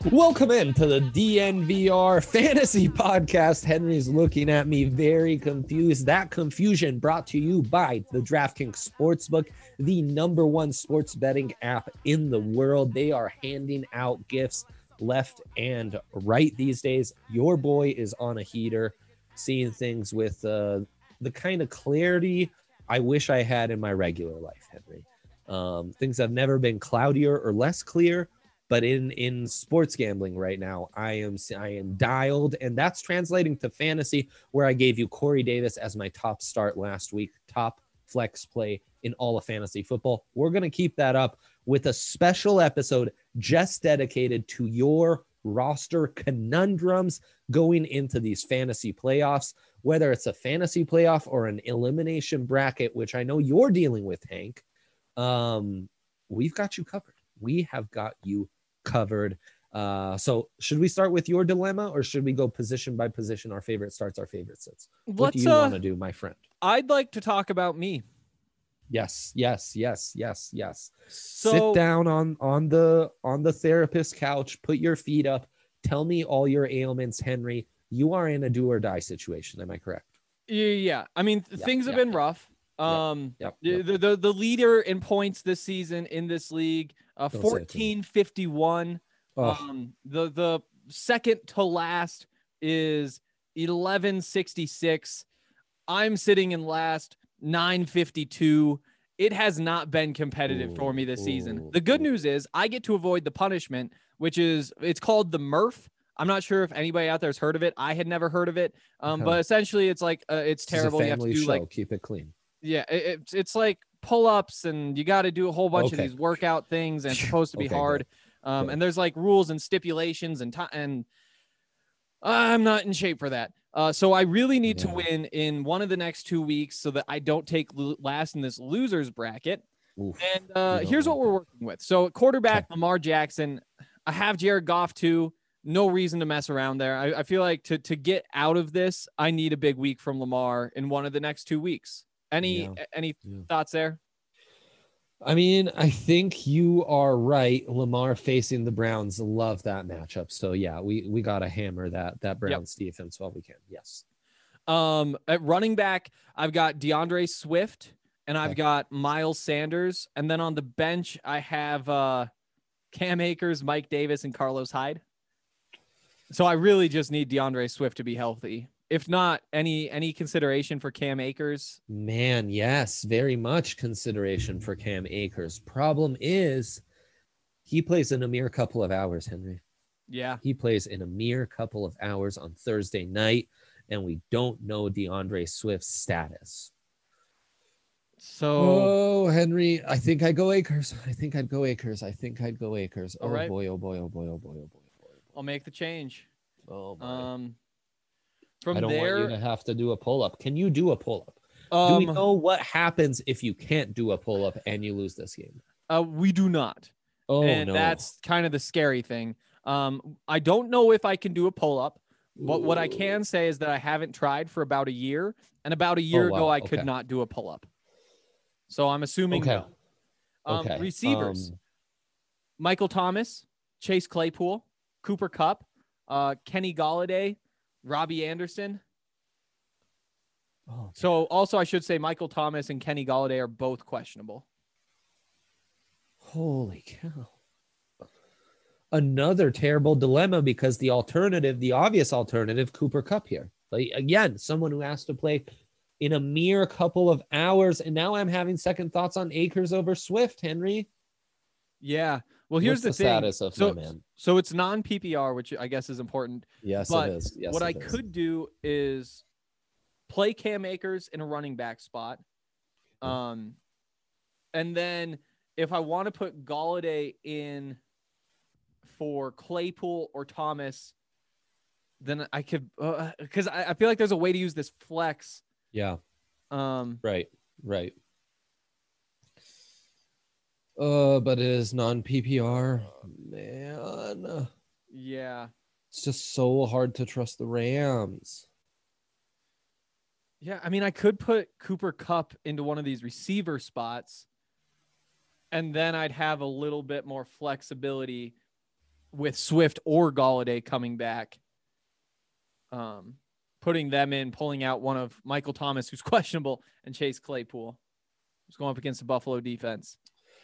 Welcome into the DNVR Fantasy Podcast. Henry's looking at me very confused. That confusion brought to you by the DraftKings Sportsbook, the #1 sports betting app in the world. They are handing out gifts left and right these days. Your boy is on a heater, seeing things with the kind of clarity I wish I had in my regular life, Henry. Things have never been cloudier or less clear. But in sports gambling right now, I am dialed, and that's translating to fantasy, where I gave you Corey Davis as my top start last week, top flex play in all of fantasy football. We're going to keep that up with a special episode just dedicated to your roster conundrums going into these fantasy playoffs, whether it's a fantasy playoff or an elimination bracket, which I know you're dealing with, Hank. We've got you covered. We have got you covered. So should we start with your dilemma, or should we go position by position, our favorite starts, our favorite sits? What do you want to do, my friend? I'd like to talk about me. Yes. So, sit down on the therapist couch, put your feet up, tell me all your ailments, Henry. You are in a do or die situation, am I correct? Yeah. I mean, things have been rough. Yep. The leader in points this season in this league, 1451. The second to last is 1166. I'm sitting in last, 952. It has not been competitive for me this season. The good news is I get to avoid the punishment, it's called the Murph. I'm not sure if anybody out there has heard of it. I had never heard of it. But essentially it's like, it's terrible. You have to do show. Keep it clean. Yeah, it's like pull-ups, and you got to do a whole bunch of these workout things, and it's supposed to be hard. Good. And there's like rules and stipulations and I'm not in shape for that. So I really need to win in one of the next 2 weeks so that I don't take last in this losers bracket. Oof. And here's what we're working with. So quarterback, Lamar Jackson. I have Jared Goff too. No reason to mess around there. I feel like to get out of this, I need a big week from Lamar in one of the next 2 weeks. Any thoughts there? I mean, I think you are right. Lamar facing the Browns, love that matchup. So yeah, we got to hammer that Browns defense while we can. Yes. At running back, I've got DeAndre Swift and I've got Miles Sanders. And then on the bench, I have Cam Akers, Mike Davis, and Carlos Hyde. So I really just need DeAndre Swift to be healthy. If not, any consideration for Cam Akers? Man, yes, very much consideration for Cam Akers. Problem is, he plays in a mere couple of hours, Henry. Yeah. He plays in a mere couple of hours on Thursday night, and we don't know DeAndre Swift's status. So, Henry, I think I'd go Akers. All right. Oh boy. I'll make the change. Oh boy. From I don't there, want you to have to do a pull-up. Can you do a pull-up? Do we know what happens if you can't do a pull-up and you lose this game? We do not. Oh, and no. That's kind of the scary thing. I don't know if I can do a pull-up, but what I can say is that I haven't tried for about a year, and about a year ago, I could not do a pull-up. So I'm assuming no. Receivers, Michael Thomas, Chase Claypool, Cooper Kupp, Kenny Golladay, Robbie Anderson. So also I should say Michael Thomas and Kenny Golladay are both questionable. Holy cow. Another terrible dilemma, because the obvious alternative, Cooper Kupp here. Like, again, someone who has to play in a mere couple of hours. And now I'm having second thoughts on Akers over Swift, Henry. Yeah. Well, here's the thing. Status of my man? So it's non-PPR, which I guess is important. Yes, but it is. Yes, what I could do is play Cam Akers in a running back spot. And then if I want to put Golladay in for Claypool or Thomas, then I could, because I feel like there's a way to use this flex. Yeah. Right. But it is non-PPR. Man. Yeah. It's just so hard to trust the Rams. Yeah, I mean, I could put Cooper Kupp into one of these receiver spots, and then I'd have a little bit more flexibility with Swift or Galladay coming back. Putting them in, pulling out one of Michael Thomas, who's questionable, and Chase Claypool, who's going up against the Buffalo defense.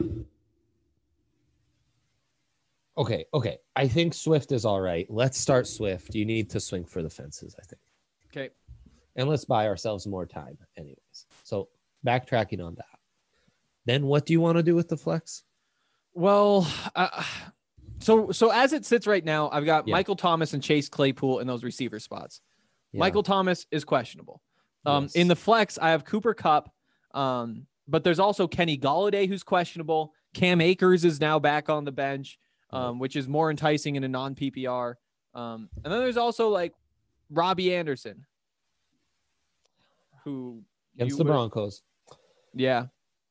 Okay. I think Swift is all right. Let's start Swift. You need to swing for the fences, I think. Okay. And let's buy ourselves more time anyways. So backtracking on that. Then what do you want to do with the flex? Well, so as it sits right now, I've got Michael Thomas and Chase Claypool in those receiver spots. Yeah. Michael Thomas is questionable. Yes. In the flex, I have Cooper Kupp, but there's also Kenny Galladay, who's questionable. Cam Akers is now back on the bench, which is more enticing in a non-PPR. And then there's also like Robbie Anderson, who against the Broncos. Yeah.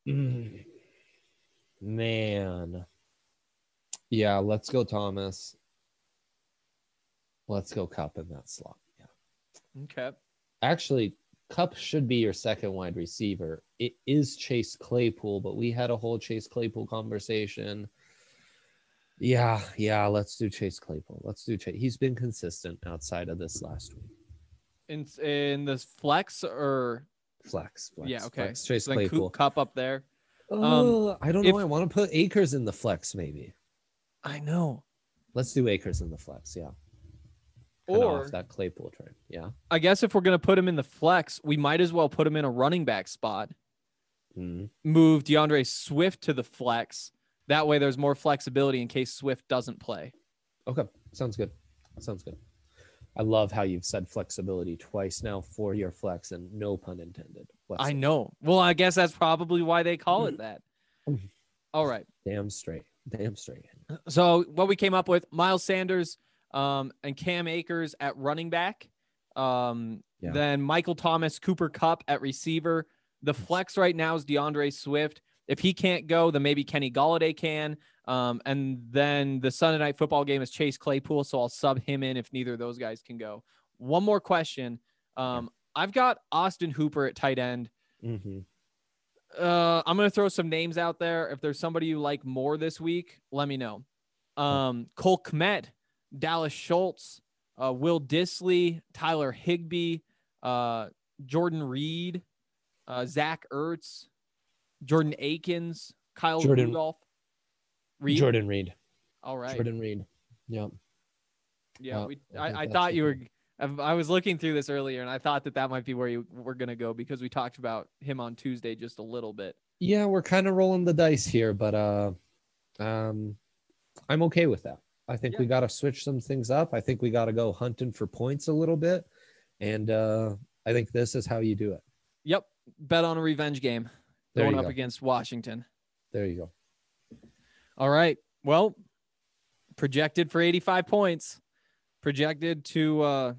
Man. Yeah, let's go Thomas. Let's go Kupp in that slot. Yeah. Okay. Actually, Kupp should be your second wide receiver. It is Chase Claypool, but we had a whole Chase Claypool conversation. Yeah, let's do Chase Claypool. Let's do Chase. He's been consistent outside of this last week. In this flex or flex? Yeah, okay. Flex. Chase Claypool. Kupp up there. I don't know. I want to put Akers in the flex, maybe. I know. Let's do Akers in the flex, yeah. Or off that Claypool trade, yeah. I guess if we're gonna put him in the flex, we might as well put him in a running back spot. Move DeAndre Swift to the flex. That way, there's more flexibility in case Swift doesn't play. Okay, sounds good. I love how you've said flexibility twice now for your flex, and no pun intended. I know. Well, I guess that's probably why they call it that. All right. Damn straight. So what we came up with, Miles Sanders and Cam Akers at running back. Then Michael Thomas, Cooper Kupp at receiver. The flex right now is DeAndre Swift. If he can't go, then maybe Kenny Galladay can. And then the Sunday night football game is Chase Claypool, so I'll sub him in if neither of those guys can go. One more question. I've got Austin Hooper at tight end. I'm going to throw some names out there. If there's somebody you like more this week, let me know. Cole Kmet, Dallas Schultz, Will Dissly, Tyler Higbee, Jordan Reed, Zach Ertz, Jordan Akins, Kyle Rudolph. Jordan Reed. All right. Jordan Reed. Yep. Yeah. I thought you were. I was looking through this earlier, and I thought that might be where you were going to go because we talked about him on Tuesday just a little bit. Yeah, we're kind of rolling the dice here, but I'm okay with that. I think we got to switch some things up. I think we got to go hunting for points a little bit, and I think this is how you do it. Yep. Bet on a revenge game going up against Washington. There you go. All right. Well, projected for 85 points. Projected to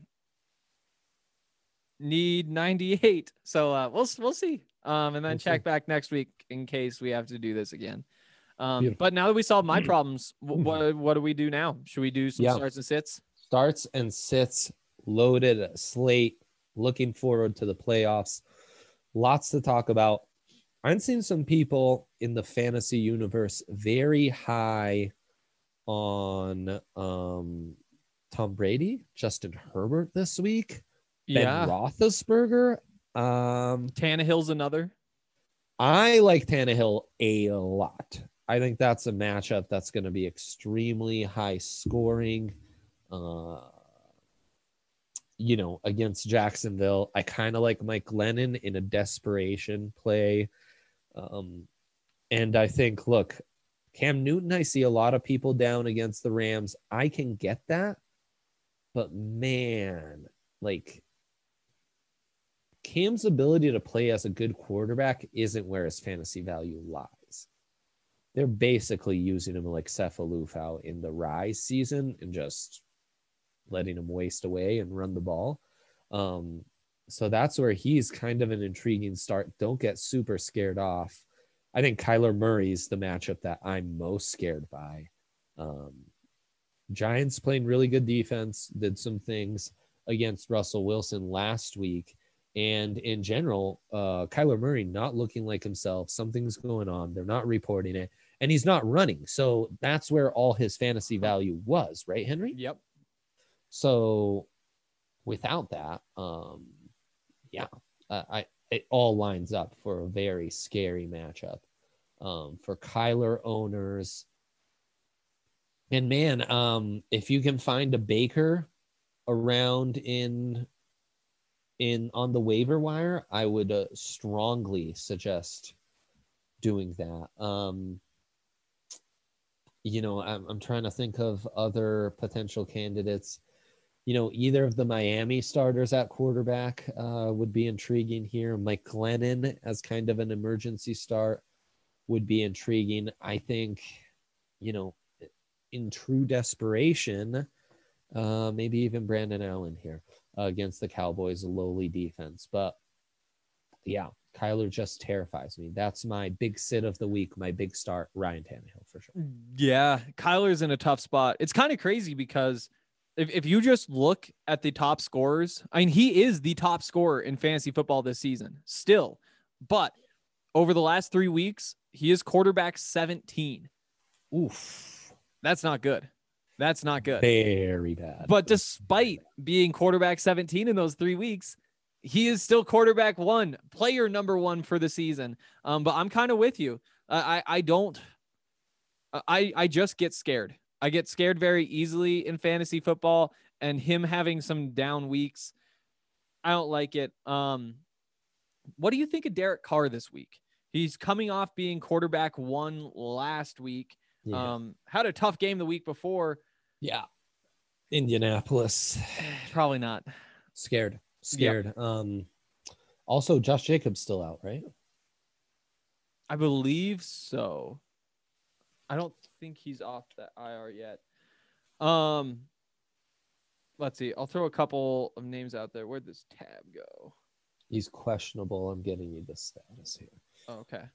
need 98. So we'll see. And then check back next week in case we have to do this again. But now that we solved my problems, what do we do now? Should we do some starts and sits? Starts and sits, loaded slate, looking forward to the playoffs. Lots to talk about. I've seen some people in the fantasy universe very high on Tom Brady, Justin Herbert this week, Ben Roethlisberger. Tannehill's another. I like Tannehill a lot. I think that's a matchup that's going to be extremely high scoring. Against Jacksonville. I kind of like Mike Glennon in a desperation play. And I think, look, Cam Newton, I see a lot of people down against the Rams. I can get that. But man, like Cam's ability to play as a good quarterback isn't where his fantasy value lies. They're basically using him like Cephalufau in the Rise season and just letting him waste away and run the ball. So that's where he's kind of an intriguing start. Don't get super scared off. I think Kyler Murray's the matchup that I'm most scared by. Giants playing really good defense, did some things against Russell Wilson last week. And in general, Kyler Murray not looking like himself. Something's going on. They're not reporting it. and he's not running. So that's where all his fantasy value was, right, Henry? Yep. So without that, it all lines up for a very scary matchup for Kyler owners. And man, if you can find a Baker around in on the waiver wire, I would strongly suggest doing that. I'm trying to think of other potential candidates. Either of the Miami starters at quarterback would be intriguing here. Mike Glennon as kind of an emergency start would be intriguing. I think, in true desperation, maybe even Brandon Allen here against the Cowboys' lowly defense. But yeah, Kyler just terrifies me. That's my big sit of the week, my big start, Ryan Tannehill for sure. Yeah, Kyler's in a tough spot. It's kind of crazy because if you just look at the top scorers, I mean, he is the top scorer in fantasy football this season still. But over the last 3 weeks, he is quarterback 17. Oof. That's not good. That's not good. Very bad. But despite being quarterback 17 in those 3 weeks, he is still quarterback 1, player number 1 for the season. But I'm kind of with you. I just get scared. I get scared very easily in fantasy football, and him having some down weeks, I don't like it. What do you think of Derek Carr this week? He's coming off being quarterback 1 last week. Yeah. Had a tough game the week before. Yeah. Indianapolis. Probably not. Scared. Yep. Also, Josh Jacobs still out, right? I believe so. I don't think he's off that IR yet. Let's see. I'll throw a couple of names out there. Where'd this tab go? He's questionable. I'm getting you the status here. Okay.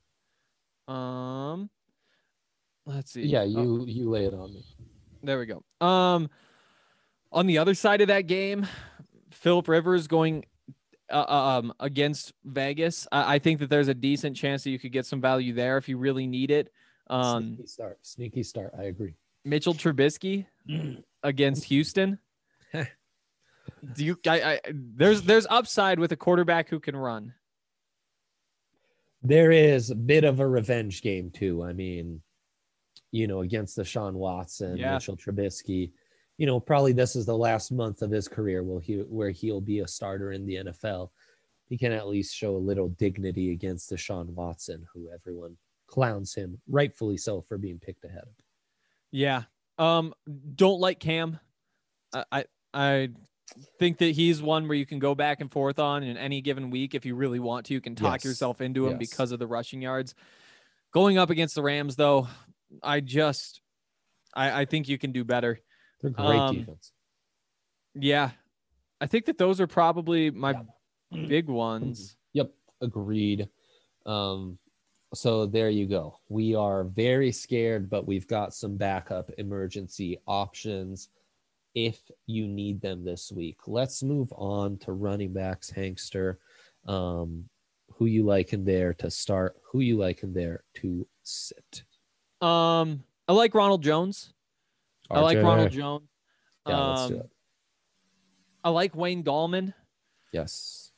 Let's see. Yeah, you lay it on me. There we go. On the other side of that game, Phillip Rivers going against Vegas. I think that there's a decent chance that you could get some value there if you really need it. Sneaky start. I agree. Mitchell Trubisky against Houston. There's upside with a quarterback who can run. There is a bit of a revenge game too. I mean, against Deshaun Watson, Mitchell Trubisky. Probably this is the last month of his career where he'll be a starter in the NFL. He can at least show a little dignity against Deshaun Watson, who everyone clowns him, rightfully so, for being picked ahead of. Yeah. Don't like Cam. I think that he's one where you can go back and forth on in any given week. If you really want to, you can talk yourself into him because of the rushing yards. Going up against the Rams, though, I think you can do better. They're great defense. Yeah. I think that those are probably my big ones. Yep. Agreed. So there you go. We are very scared, but we've got some backup emergency options if you need them this week. Let's move on to running backs, Hankster. Who you like in there to start? Who you like in there to sit? I like Ronald Jones. RJ. I like Ronald Jones. Yeah, let's do it. I like Wayne Gallman. Yes.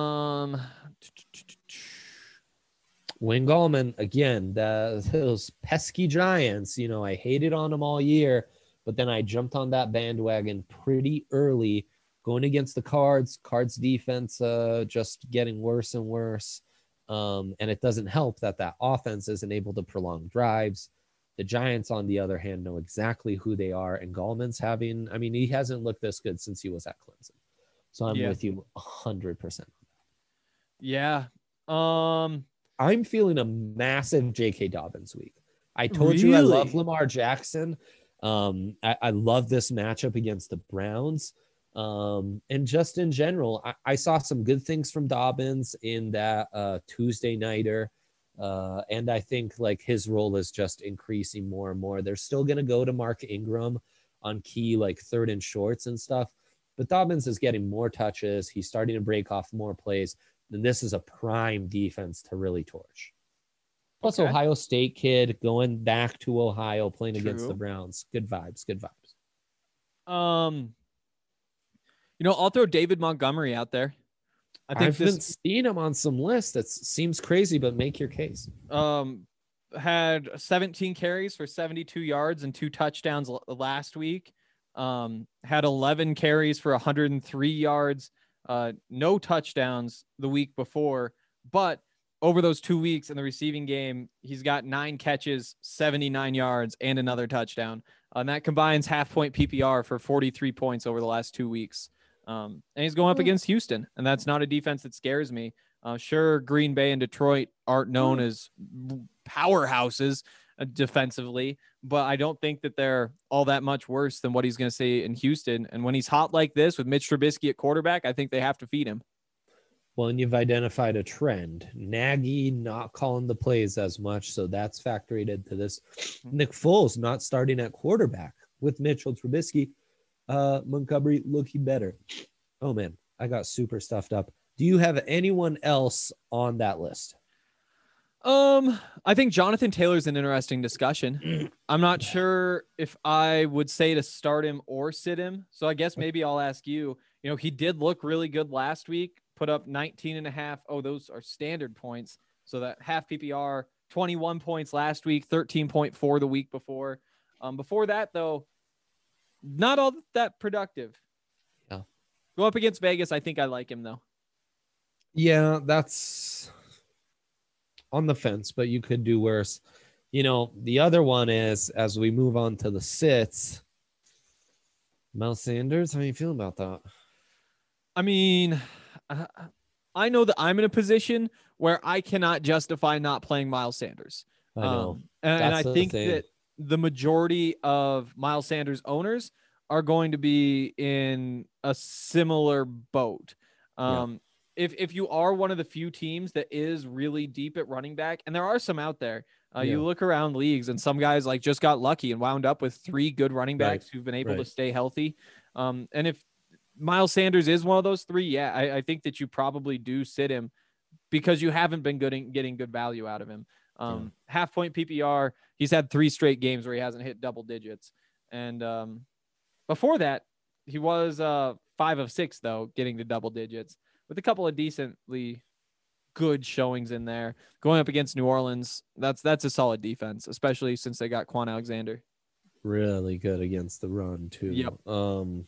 Wayne Gallman, again, those pesky Giants, I hated on them all year, but then I jumped on that bandwagon pretty early, going against the Cards defense, just getting worse and worse. And it doesn't help that offense isn't able to prolong drives. The Giants, on the other hand, know exactly who they are, and Gallman's he hasn't looked this good since he was at Clemson. So I'm with you 100%. Yeah. I'm feeling a massive J.K. Dobbins week. I told you I love Lamar Jackson. I love this matchup against the Browns. And just in general, I saw some good things from Dobbins in that Tuesday nighter. And I think his role is just increasing more and more. They're still going to go to Mark Ingram on key, third and shorts and stuff, but Dobbins is getting more touches. He's starting to break off more plays. And this is a prime defense to really torch. Plus, Okay. Ohio State kid going back to Ohio, playing against the True. Browns. Good vibes. Good vibes. I'll throw David Montgomery out there. I think I've been this seeing him on some lists. It seems crazy, but make your case. had 17 carries for 72 yards and 2 touchdowns last week. Had 11 carries for 103 yards, no touchdowns the week before, but over those 2 weeks in the receiving game, he's got 9 catches, 79 yards, and another touchdown. And that combines half-point PPR for 43 points over the last 2 weeks. And he's going up against Houston, and that's not a defense that scares me. Sure, Green Bay and Detroit aren't known as powerhouses defensively, but I don't think that they're all that much worse than what he's going to see in Houston. And when he's hot like this with Mitch Trubisky at quarterback, I think they have to feed him. Well, and you've identified a trend. Nagy not calling the plays as much, so that's factored into this. Nick Foles not starting at quarterback with Mitchell Trubisky. Montgomery looking better. Oh, man, I got super stuffed up. Do you have anyone else on that list? I think Jonathan Taylor's an interesting discussion. I'm not sure if I would say to start him or sit him. So I guess maybe I'll ask you, he did look really good last week, put up 19.5. Oh, those are standard points. So that half PPR, 21 points last week, 13.4 the week before. Before that though, not all that productive. Yeah. Go up against Vegas. I think I like him though. Yeah, that's on the fence, but you could do worse. The other one is, as we move on to the sits, Miles Sanders. How are you feeling about that? I mean, I know that I'm in a position where I cannot justify not playing Miles Sanders. I know. And I think that the majority of Miles Sanders owners are going to be in a similar boat. If you are one of the few teams that is really deep at running back, and there are some out there, you look around leagues and some guys like just got lucky and wound up with 3 good running backs who've been able to stay healthy. And if Miles Sanders is one of those 3, I think that you probably do sit him because you haven't been getting good value out of him. Half point PPR, he's had 3 straight games where he hasn't hit double digits. And before that, he was 5 of 6, though, getting to double digits with a couple of decently good showings in there. Going up against New Orleans, that's a solid defense, especially since they got Quan Alexander. Really good against the run, too. Yep.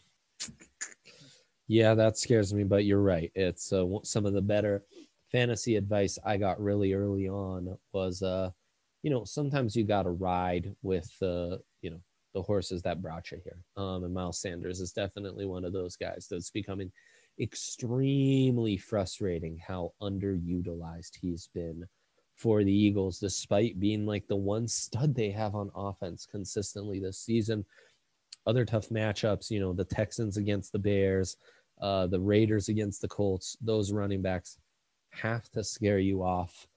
Yeah, that scares me, but you're right. It's some of the better fantasy advice I got really early on was, sometimes you got to ride with, the horses that brought you here. And Miles Sanders is definitely one of those guys that's becoming extremely frustrating how underutilized he's been for the Eagles, despite being like the one stud they have on offense consistently this season. Other tough matchups, the Texans against the Bears, the Raiders against the Colts, those running backs have to scare you off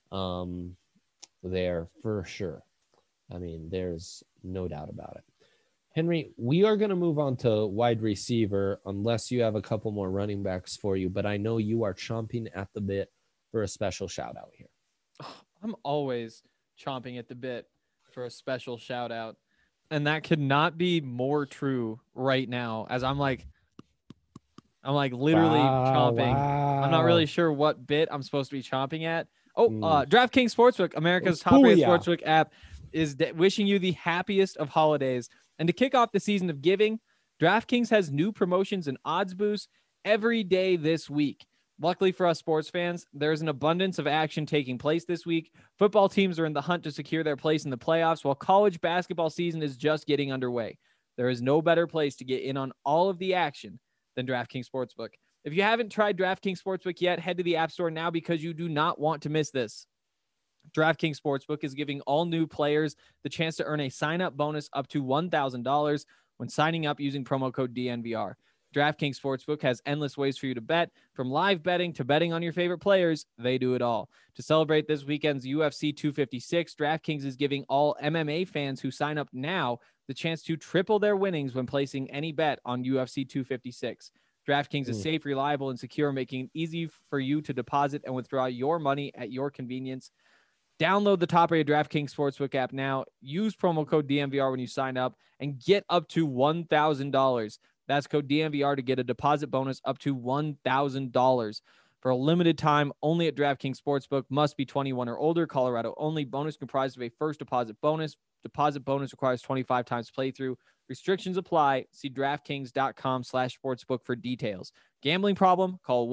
there for sure. I mean, there's no doubt about it. Henry, we are going to move on to wide receiver unless you have a couple more running backs for you, but I know you are chomping at the bit for a special shout out here. I'm always chomping at the bit for a special shout out. And that could not be more true right now as I'm like literally chomping. Wow. I'm not really sure what bit I'm supposed to be chomping at. DraftKings Sportsbook, America's top-rated sportsbook app, is wishing you the happiest of holidays. And to kick off the season of giving, DraftKings has new promotions and odds boosts every day this week. Luckily for us sports fans, there's an abundance of action taking place this week. Football teams are in the hunt to secure their place in the playoffs, while college basketball season is just getting underway. There is no better place to get in on all of the action than DraftKings Sportsbook. If you haven't tried DraftKings Sportsbook yet, head to the App Store now because you do not want to miss this. DraftKings Sportsbook is giving all new players the chance to earn a sign-up bonus up to $1,000 when signing up using promo code DNVR. DraftKings Sportsbook has endless ways for you to bet. From live betting to betting on your favorite players, they do it all. To celebrate this weekend's UFC 256, DraftKings is giving all MMA fans who sign up now the chance to triple their winnings when placing any bet on UFC 256. DraftKings is safe, reliable, and secure, making it easy for you to deposit and withdraw your money at your convenience. Download the top-rated DraftKings Sportsbook app now. Use promo code DNVR when you sign up and get up to $1,000. That's code DNVR to get a deposit bonus up to $1,000 for a limited time only at DraftKings Sportsbook. Must be 21 or older. Colorado only. Bonus comprised of a first deposit bonus. Deposit bonus requires 25 times playthrough. Restrictions apply. See DraftKings.com/sportsbook for details. Gambling problem? Call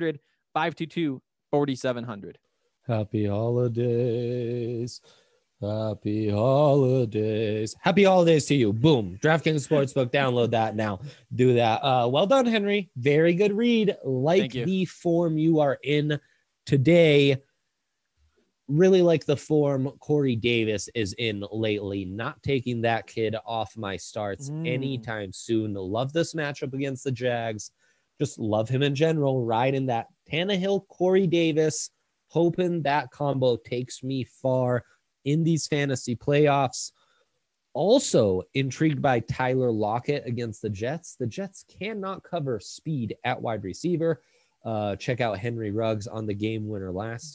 1-800-522-4700. Happy holidays. Happy holidays. Happy holidays to you. Boom. DraftKings Sportsbook. Download that now. Do that. Well done, Henry. Very good read. Like the form you are in today. Really like the form Corey Davis is in lately. Not taking that kid off my starts anytime soon. Love this matchup against the Jags. Just love him in general. Riding that Tannehill, Corey Davis. Hoping that combo takes me far in these fantasy playoffs. Also intrigued by Tyler Lockett against the Jets. The Jets cannot cover speed at wide receiver. Check out Henry Ruggs on the game winner last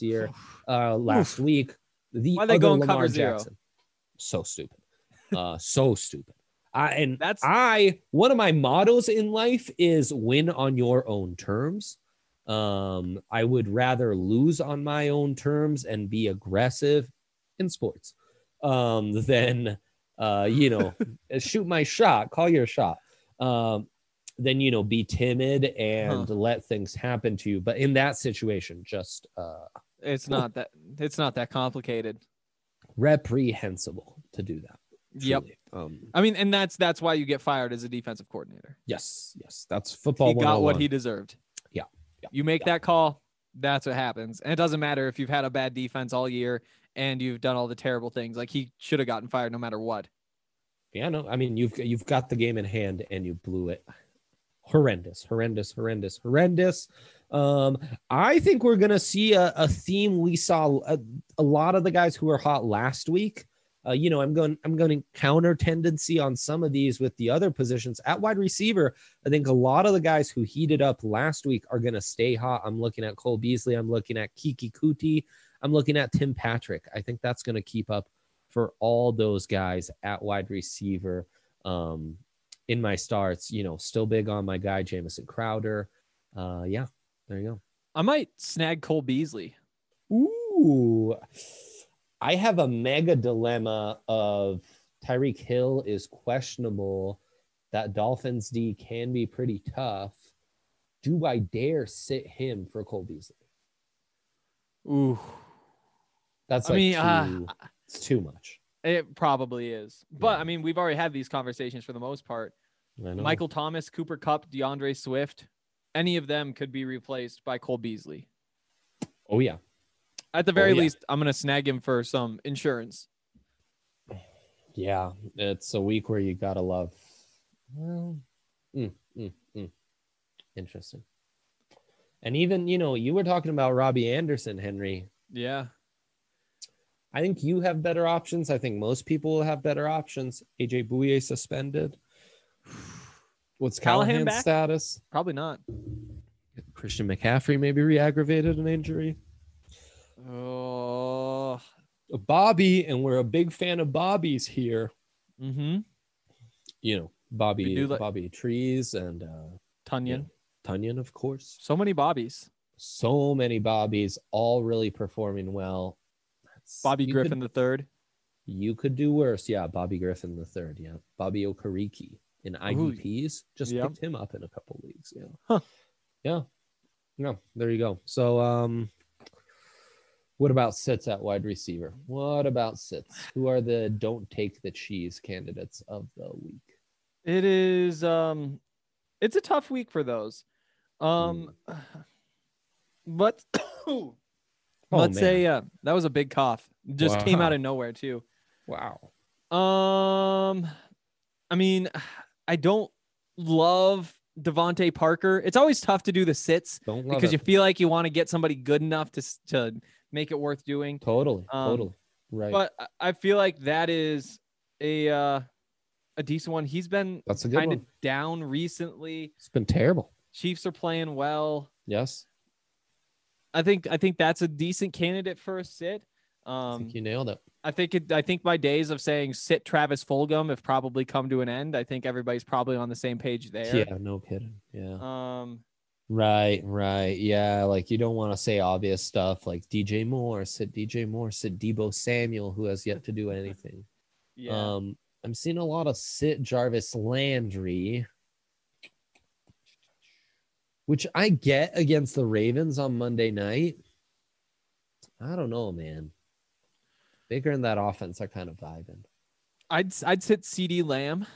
week. The Why they other going Lamar cover zero? Jackson. So stupid. So stupid. One of my mottos in life is win on your own terms. I would rather lose on my own terms and be aggressive in sports than shoot my shot, call your shot, then be timid and let things happen to you. But in that situation, just it's not that complicated. Reprehensible to do that. Truly. Yep. I mean, and that's why you get fired as a defensive coordinator. Yes, that's football. He got what he deserved. Yeah. You make that call, that's what happens. And it doesn't matter if you've had a bad defense all year and you've done all the terrible things. Like, he should have gotten fired no matter what. Yeah, no, I mean, you've got the game in hand and you blew it. Horrendous. I think we're gonna see a theme we saw a lot of the guys who were hot last week. I'm going to counter tendency on some of these with the other positions at wide receiver. I think a lot of the guys who heated up last week are going to stay hot. I'm looking at Cole Beasley. I'm looking at Kiki Kuti. I'm looking at Tim Patrick. I think that's going to keep up for all those guys at wide receiver. In my starts, still big on my guy, Jamison Crowder. Yeah, there you go. I might snag Cole Beasley. Ooh, I have a mega dilemma of Tyreek Hill is questionable. That Dolphins D can be pretty tough. Do I dare sit him for Cole Beasley? Ooh. That's it's too much. It probably is. But, I mean, we've already had these conversations for the most part. Michael Thomas, Cooper Kupp, DeAndre Swift, any of them could be replaced by Cole Beasley. Oh, yeah. At the very least, I'm going to snag him for some insurance. Yeah, it's a week where you got to love. Well, interesting. And even, you were talking about Robbie Anderson, Henry. Yeah. I think you have better options. I think most people will have better options. AJ Bouye suspended. What's Callahan's status? Probably not. Christian McCaffrey maybe re-aggravated an injury. Oh, Bobby, and we're a big fan of Bobby's here. Mm-hmm. Bobby Trees and Tunyon. Tunyon, of course. So many Bobbies, all really performing well. Bobby Griffin the third. You could do worse. Yeah, Bobby Griffin the third. Yeah, Bobby Okereke in IDPs. Picked him up in a couple leagues. Yeah. Huh. Yeah. No, there you go. So, what about sits at wide receiver? What about sits? Who are the don't take the cheese candidates of the week? It is it's a tough week for those. But let's say that was a big cough. Just came out of nowhere too. Wow. I mean, I don't love Devontae Parker. It's always tough to do the sits because you feel like you want to get somebody good enough to make it worth doing. Totally. Right. But I feel like that is a decent one. He's been kind of down recently. It's been terrible. Chiefs are playing well. Yes. I think that's a decent candidate for a sit. I think you nailed it. I think my days of saying sit Travis Fulgham have probably come to an end. I think everybody's probably on the same page there. Yeah, no kidding. Yeah. Right. Yeah, like you don't want to say obvious stuff like DJ Moore, sit Debo Samuel, who has yet to do anything. Yeah. I'm seeing a lot of sit Jarvis Landry, which I get against the Ravens on Monday night. I don't know, man. Baker and that offense are kind of vibing. I'd sit CeeDee Lamb.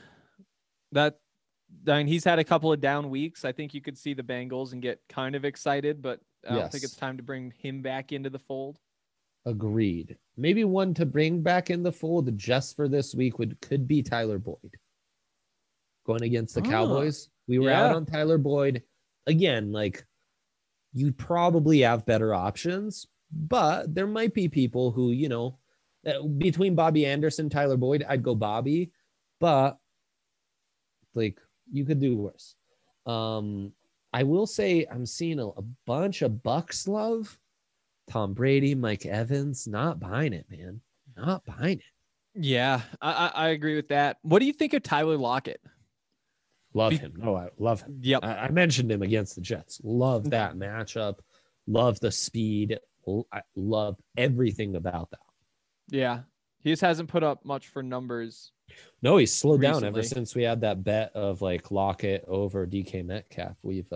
He's had a couple of down weeks. I think you could see the Bengals and get kind of excited, but I don't think it's time to bring him back into the fold. Agreed. Maybe one to bring back in the fold just for this week could be Tyler Boyd. Going against the Cowboys. We were out on Tyler Boyd. Again, like you probably have better options, but there might be people who, between Bobby Anderson, Tyler Boyd, I'd go Bobby, but like you could do worse. I will say I'm seeing a bunch of Bucks love. Tom Brady, Mike Evans, not buying it, man. Not buying it. Yeah, I agree with that. What do you think of Tyler Lockett? Love him. No, I love him. Yep. I mentioned him against the Jets. Love that matchup. Love the speed. I love everything about that. Yeah. He just hasn't put up much for numbers. No, he's slowed down ever since we had that bet of like Lockett over DK Metcalf.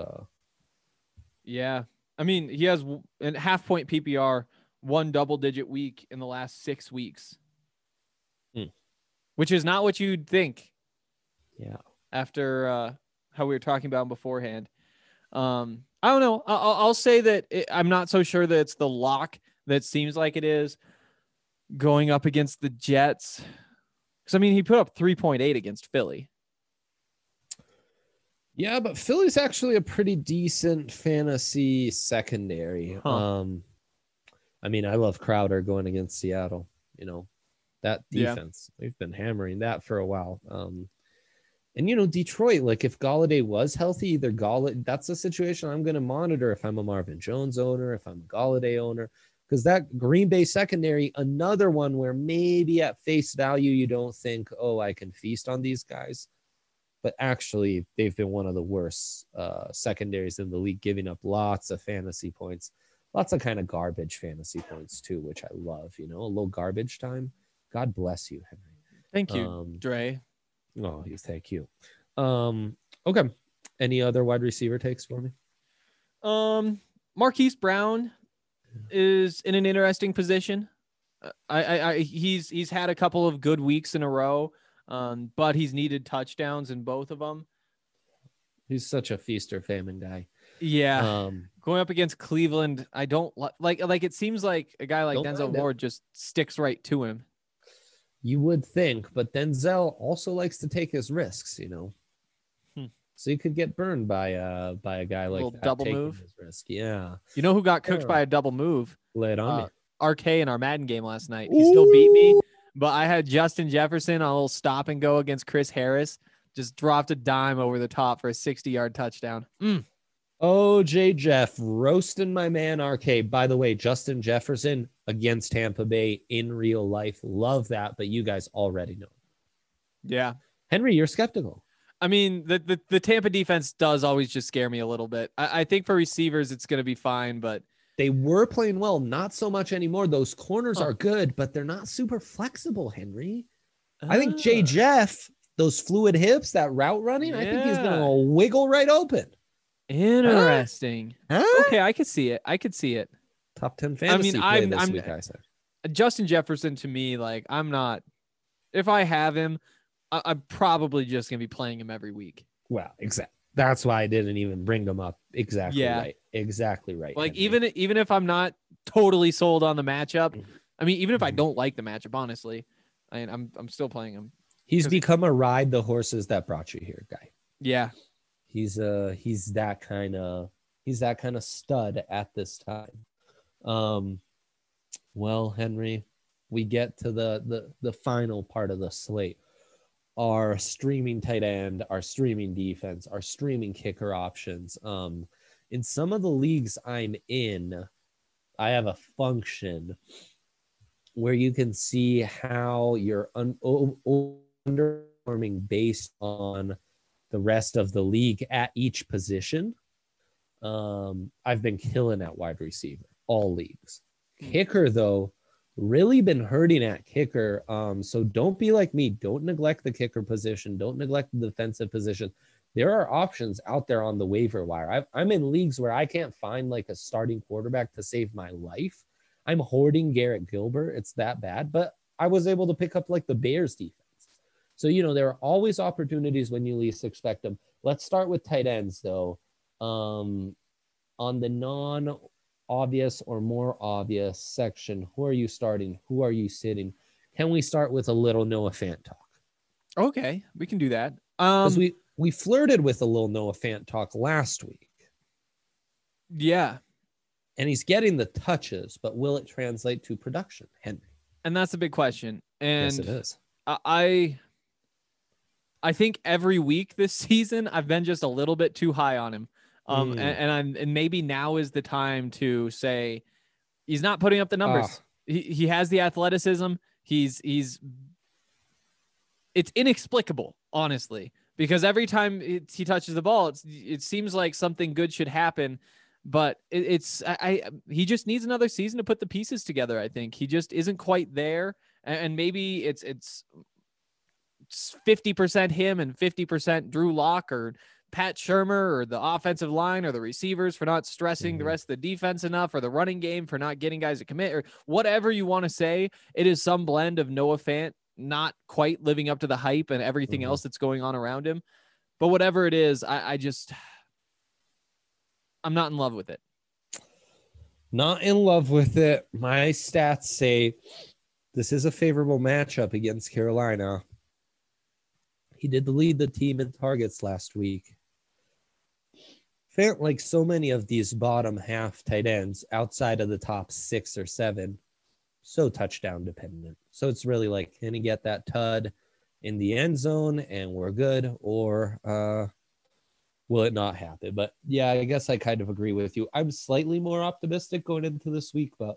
Yeah. I mean, he has a half-point PPR, one double-digit week in the last 6 weeks, which is not what you'd think. Yeah. After how we were talking about him beforehand. I don't know. I'll say that I'm not so sure that it's the lock that seems like it is going up against the Jets. Because, I mean, he put up 3.8 against Philly. Yeah, but Philly's actually a pretty decent fantasy secondary. I mean, I love Crowder going against Seattle. That defense. We've been hammering that for a while. And, Detroit, like if Golladay was healthy, that's a situation I'm going to monitor if I'm a Marvin Jones owner, if I'm a Golladay owner, because that Green Bay secondary, another one where maybe at face value, you don't think, oh, I can feast on these guys. But actually, they've been one of the worst secondaries in the league, giving up lots of fantasy points, lots of kind of garbage fantasy points too, which I love, a little garbage time. God bless you, Henry. Thank you, Dre. Oh, thank you. Okay. Any other wide receiver takes for me? Marquise Brown is in an interesting position. He's had a couple of good weeks in a row, but he's needed touchdowns in both of them. He's such a feast or famine guy. Yeah. Going up against Cleveland, I don't like it seems like a guy like Denzel Ward just sticks right to him. You would think, but Denzel also likes to take his risks, So you could get burned by a guy like that. Double move. His risk. Yeah. You know who got cooked by a double move? Lay it on me. RK in our Madden game last night. He still beat me, but I had Justin Jefferson on a little stop and go against Chris Harris. Just dropped a dime over the top for a 60-yard touchdown. OJ Jeff roasting my man RK. By the way, Justin Jefferson against Tampa Bay in real life. Love that, but you guys already know. Yeah. Henry, you're skeptical. I mean, the Tampa defense does always just scare me a little bit. I think for receivers, it's going to be fine, but they were playing well. Not so much anymore. Those corners are good, but they're not super flexible, Henry. I think Jay Jeff, those fluid hips, that route running, I think he's going to wiggle right open. Interesting. Okay, I could see it. Top 10 fantasy play this week, I said. Justin Jefferson to me, like I'm not. If I have him, I'm probably just gonna be playing him every week. Well, exactly. That's why I didn't even bring them up. Exactly right. Exactly right. Like Henry. even if I'm not totally sold on the matchup, I mean, even if I don't like the matchup, honestly, I'm still playing him. He's become a ride the horses that brought you here guy. Yeah. He's that kind of stud at this time. Well, Henry, we get to the final part of the slate. Our streaming tight end, our streaming defense, our streaming kicker options. In some of the leagues I'm in, I have a function where you can see how you're underperforming based on the rest of the league at each position. I've been killing at wide receiver, all leagues. Kicker, though, really been hurting at kicker. So don't be like me. Don't neglect the kicker position. Don't neglect the defensive position. There are options out there on the waiver wire. I'm in leagues where I can't find like a starting quarterback to save my life. I'm hoarding Garrett Gilbert. It's that bad, but I was able to pick up like the Bears defense. So, there are always opportunities when you least expect them. Let's start with tight ends, though. On the non-obvious or more obvious section, who are you starting? Who are you sitting? Can we start with a little Noah Fant talk? Okay, we can do that. Because we flirted with a little Noah Fant talk last week. Yeah. And he's getting the touches, but will it translate to production, Henry? And that's a big question. And yes, it is. I think every week this season, I've been just a little bit too high on him. And maybe now is the time to say he's not putting up the numbers. He has the athleticism. It's inexplicable, honestly, because every time he touches the ball, it seems like something good should happen, but he just needs another season to put the pieces together. I think he just isn't quite there, and maybe it's 50% him and 50% Drew Lock or Pat Shurmur or the offensive line or the receivers for not stressing the rest of the defense enough, or the running game for not getting guys to commit, or whatever you want to say. It is some blend of Noah Fant not quite living up to the hype and everything else that's going on around him. But whatever it is, I'm not in love with it. Not in love with it. My stats say this is a favorable matchup against Carolina. He did lead the team in targets last week. Fant, like so many of these bottom half tight ends outside of the top 6 or 7, so touchdown dependent. So it's really like, can he get that tud in the end zone and we're good, or will it not happen? But yeah, I guess I kind of agree with you. I'm slightly more optimistic going into this week, but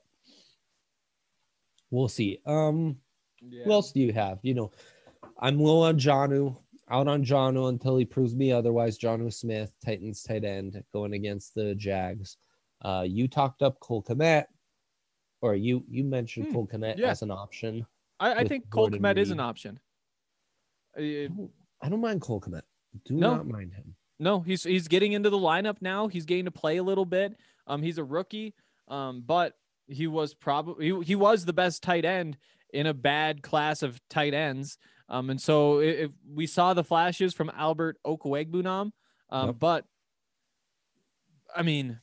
we'll see. Who else do you have? I'm low on Jonnu, out on Jonnu until he proves me otherwise. Jonnu Smith, Titans tight end, going against the Jags. You talked up Cole Kmet, or you mentioned Cole Kmet as an option. I think Cole Kmet is an option. I don't mind Cole Kmet. Not mind him. No, he's getting into the lineup now. He's getting to play a little bit. He's a rookie, but he was he was the best tight end in a bad class of tight ends. And so if we saw the flashes from Albert Okwuegbunam, but I mean,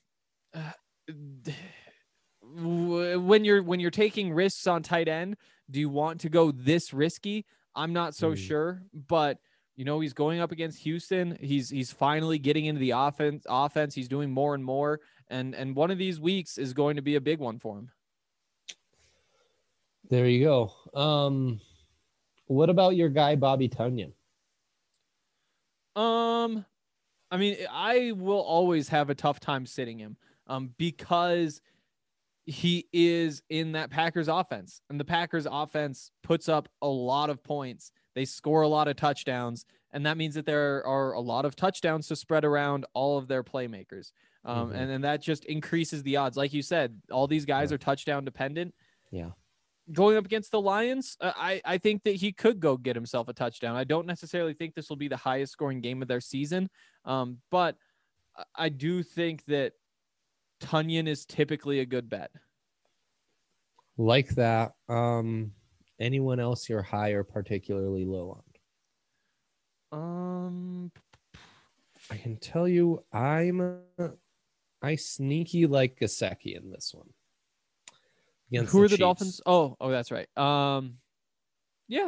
when you're taking risks on tight end, do you want to go this risky? I'm not so sure, but he's going up against Houston. He's finally getting into the offense. He's doing more and more. And one of these weeks is going to be a big one for him. There you go. What about your guy, Bobby Tonyan? I mean, I will always have a tough time sitting him, because he is in that Packers offense, and the Packers offense puts up a lot of points. They score a lot of touchdowns, and that means that there are a lot of touchdowns to spread around all of their playmakers. And then that just increases the odds. Like you said, all these guys are touchdown dependent. Yeah. Going up against the Lions, I think that he could go get himself a touchdown. I don't necessarily think this will be the highest scoring game of their season, but I do think that Tonyan is typically a good bet. Like that. Anyone else you're high or particularly low on? I can tell you I sneaky like Gesicki in this one. Who are the Dolphins? Oh, that's right. Yeah.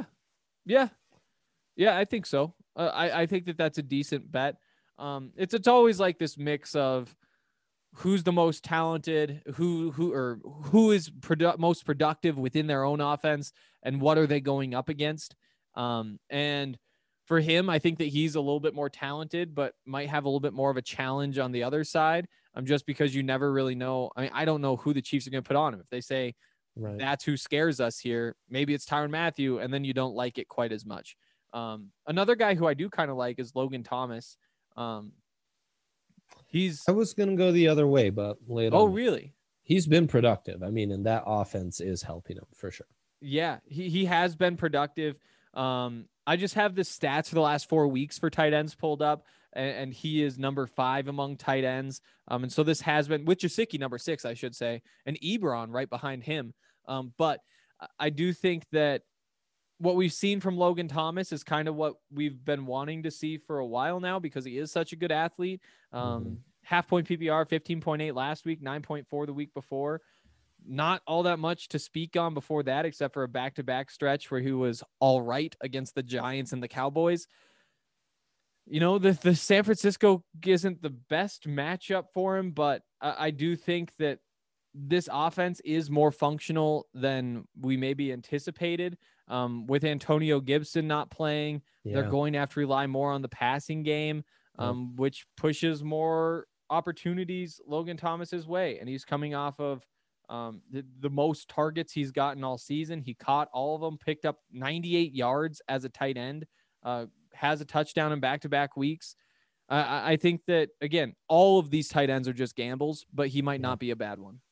I think so. I think that's a decent bet. It's always like this mix of who's the most talented, who is most productive within their own offense, and what are they going up against. And for him, I think that he's a little bit more talented, but might have a little bit more of a challenge on the other side. Just because you never really know. I mean, I don't know who the Chiefs are going to put on him. If they say Right. That's who scares us here. Maybe it's Tyrann Mathieu, and then you don't like it quite as much. Another guy who I do kind of like is Logan Thomas. I was going to go the other way, but lay it on me. Really? He's been productive. I mean, and that offense is helping him for sure. Yeah, he has been productive. I just have the stats for the last 4 weeks for tight ends pulled up, and he is number 5 among tight ends. And so this has been with Gesicki, number 6, I should say, and Ebron right behind him. But I do think that what we've seen from Logan Thomas is kind of what we've been wanting to see for a while now, because he is such a good athlete. Half point PPR, 15.8 last week, 9.4 the week before. Not all that much to speak on before that, except for a back-to-back stretch where he was all right against the Giants and the Cowboys. You know, the San Francisco isn't the best matchup for him, but I do think that this offense is more functional than we maybe anticipated. With Antonio Gibson not playing, they're going to have to rely more on the passing game, which pushes more opportunities Logan Thomas's way. And he's coming off of the most targets he's gotten all season. He caught all of them, picked up 98 yards as a tight end, has a touchdown in back-to-back weeks. I think that, again, all of these tight ends are just gambles, but he might not be a bad one.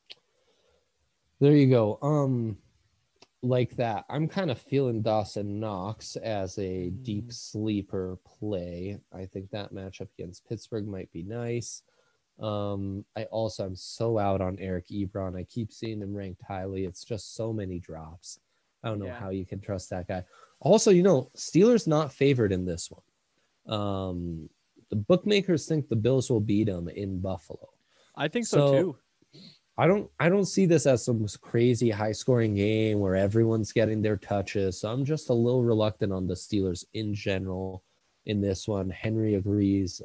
There you go. Like that, I'm kind of feeling Dawson Knox as a deep sleeper play. I think that matchup against Pittsburgh might be nice. I'm so out on Eric Ebron. I keep seeing him ranked highly. It's just so many drops. I don't know how you can trust that guy. Also, Steelers not favored in this one. The bookmakers think the Bills will beat them in Buffalo. I think so too. I don't see this as some crazy high scoring game where everyone's getting their touches. So I'm just a little reluctant on the Steelers in general in this one. Henry agrees.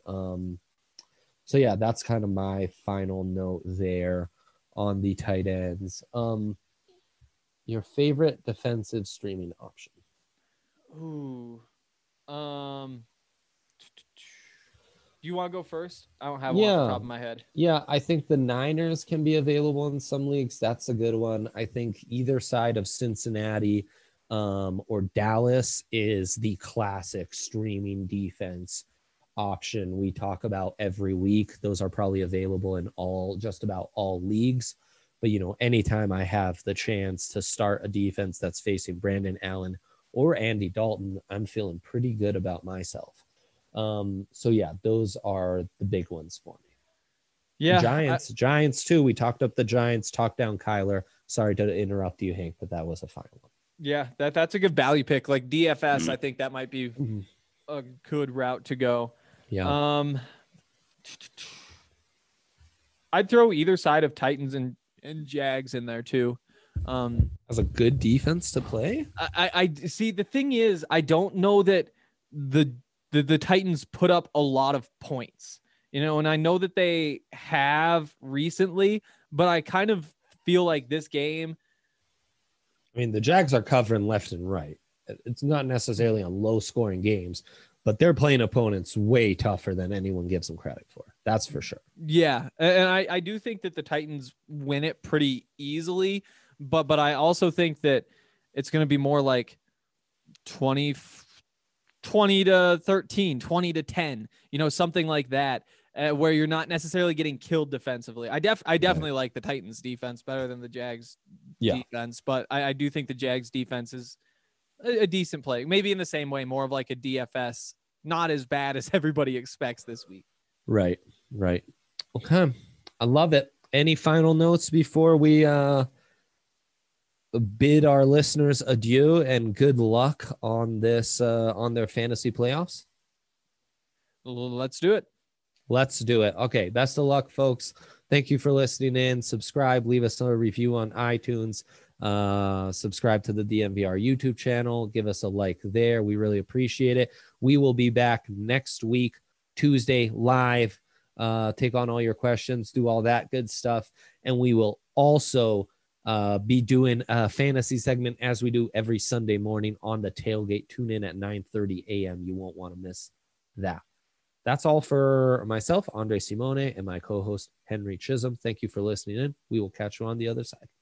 So yeah, that's kind of my final note there on the tight ends. Your favorite defensive streaming option? Ooh. Do you want to go first? I don't have one off the top of my head. Yeah, I think the Niners can be available in some leagues. That's a good one. I think either side of Cincinnati or Dallas is the classic streaming defense option we talk about every week. Those are probably available in just about all leagues. But, anytime I have the chance to start a defense that's facing Brandon Allen or Andy Dalton, I'm feeling pretty good about myself. So yeah, those are the big ones for me. Yeah. Giants too. We talked up the Giants, talked down Kyler. Sorry to interrupt you, Hank, but that was a final one. Yeah, that's a good value pick. Like DFS, I think that might be a good route to go. Yeah. I'd throw either side of Titans and Jags in there too. As a good defense to play. I see. The thing is, I don't know that the Titans put up a lot of points, and I know that they have recently, but I kind of feel like this game. I mean, the Jags are covering left and right. It's not necessarily on low scoring games, but they're playing opponents way tougher than anyone gives them credit for. That's for sure. Yeah. And I do think that the Titans win it pretty easily, but I also think that it's going to be more like 20 to 13, 20 to 10, something like that, where you're not necessarily getting killed defensively. I definitely like the Titans defense better than the Jags defense, but I do think the Jags defense is a decent play. Maybe in the same way, more of like a DFS, not as bad as everybody expects this week. Right. Okay. I love it. Any final notes before we bid our listeners adieu and good luck on this on their fantasy playoffs? Let's do it. Okay, best of luck, folks. Thank you for listening in. Subscribe, leave us a review on iTunes, subscribe to the DNVR YouTube channel, give us a like there. We really appreciate it. We will be back next week, Tuesday, live, take on all your questions, do all that good stuff, and we will also be doing a fantasy segment as we do every Sunday morning on the tailgate. Tune in at 9:30 a.m. You won't want to miss that. That's all for myself, Andre Simone, and my co-host, Henry Chisholm. Thank you for listening in. We will catch you on the other side.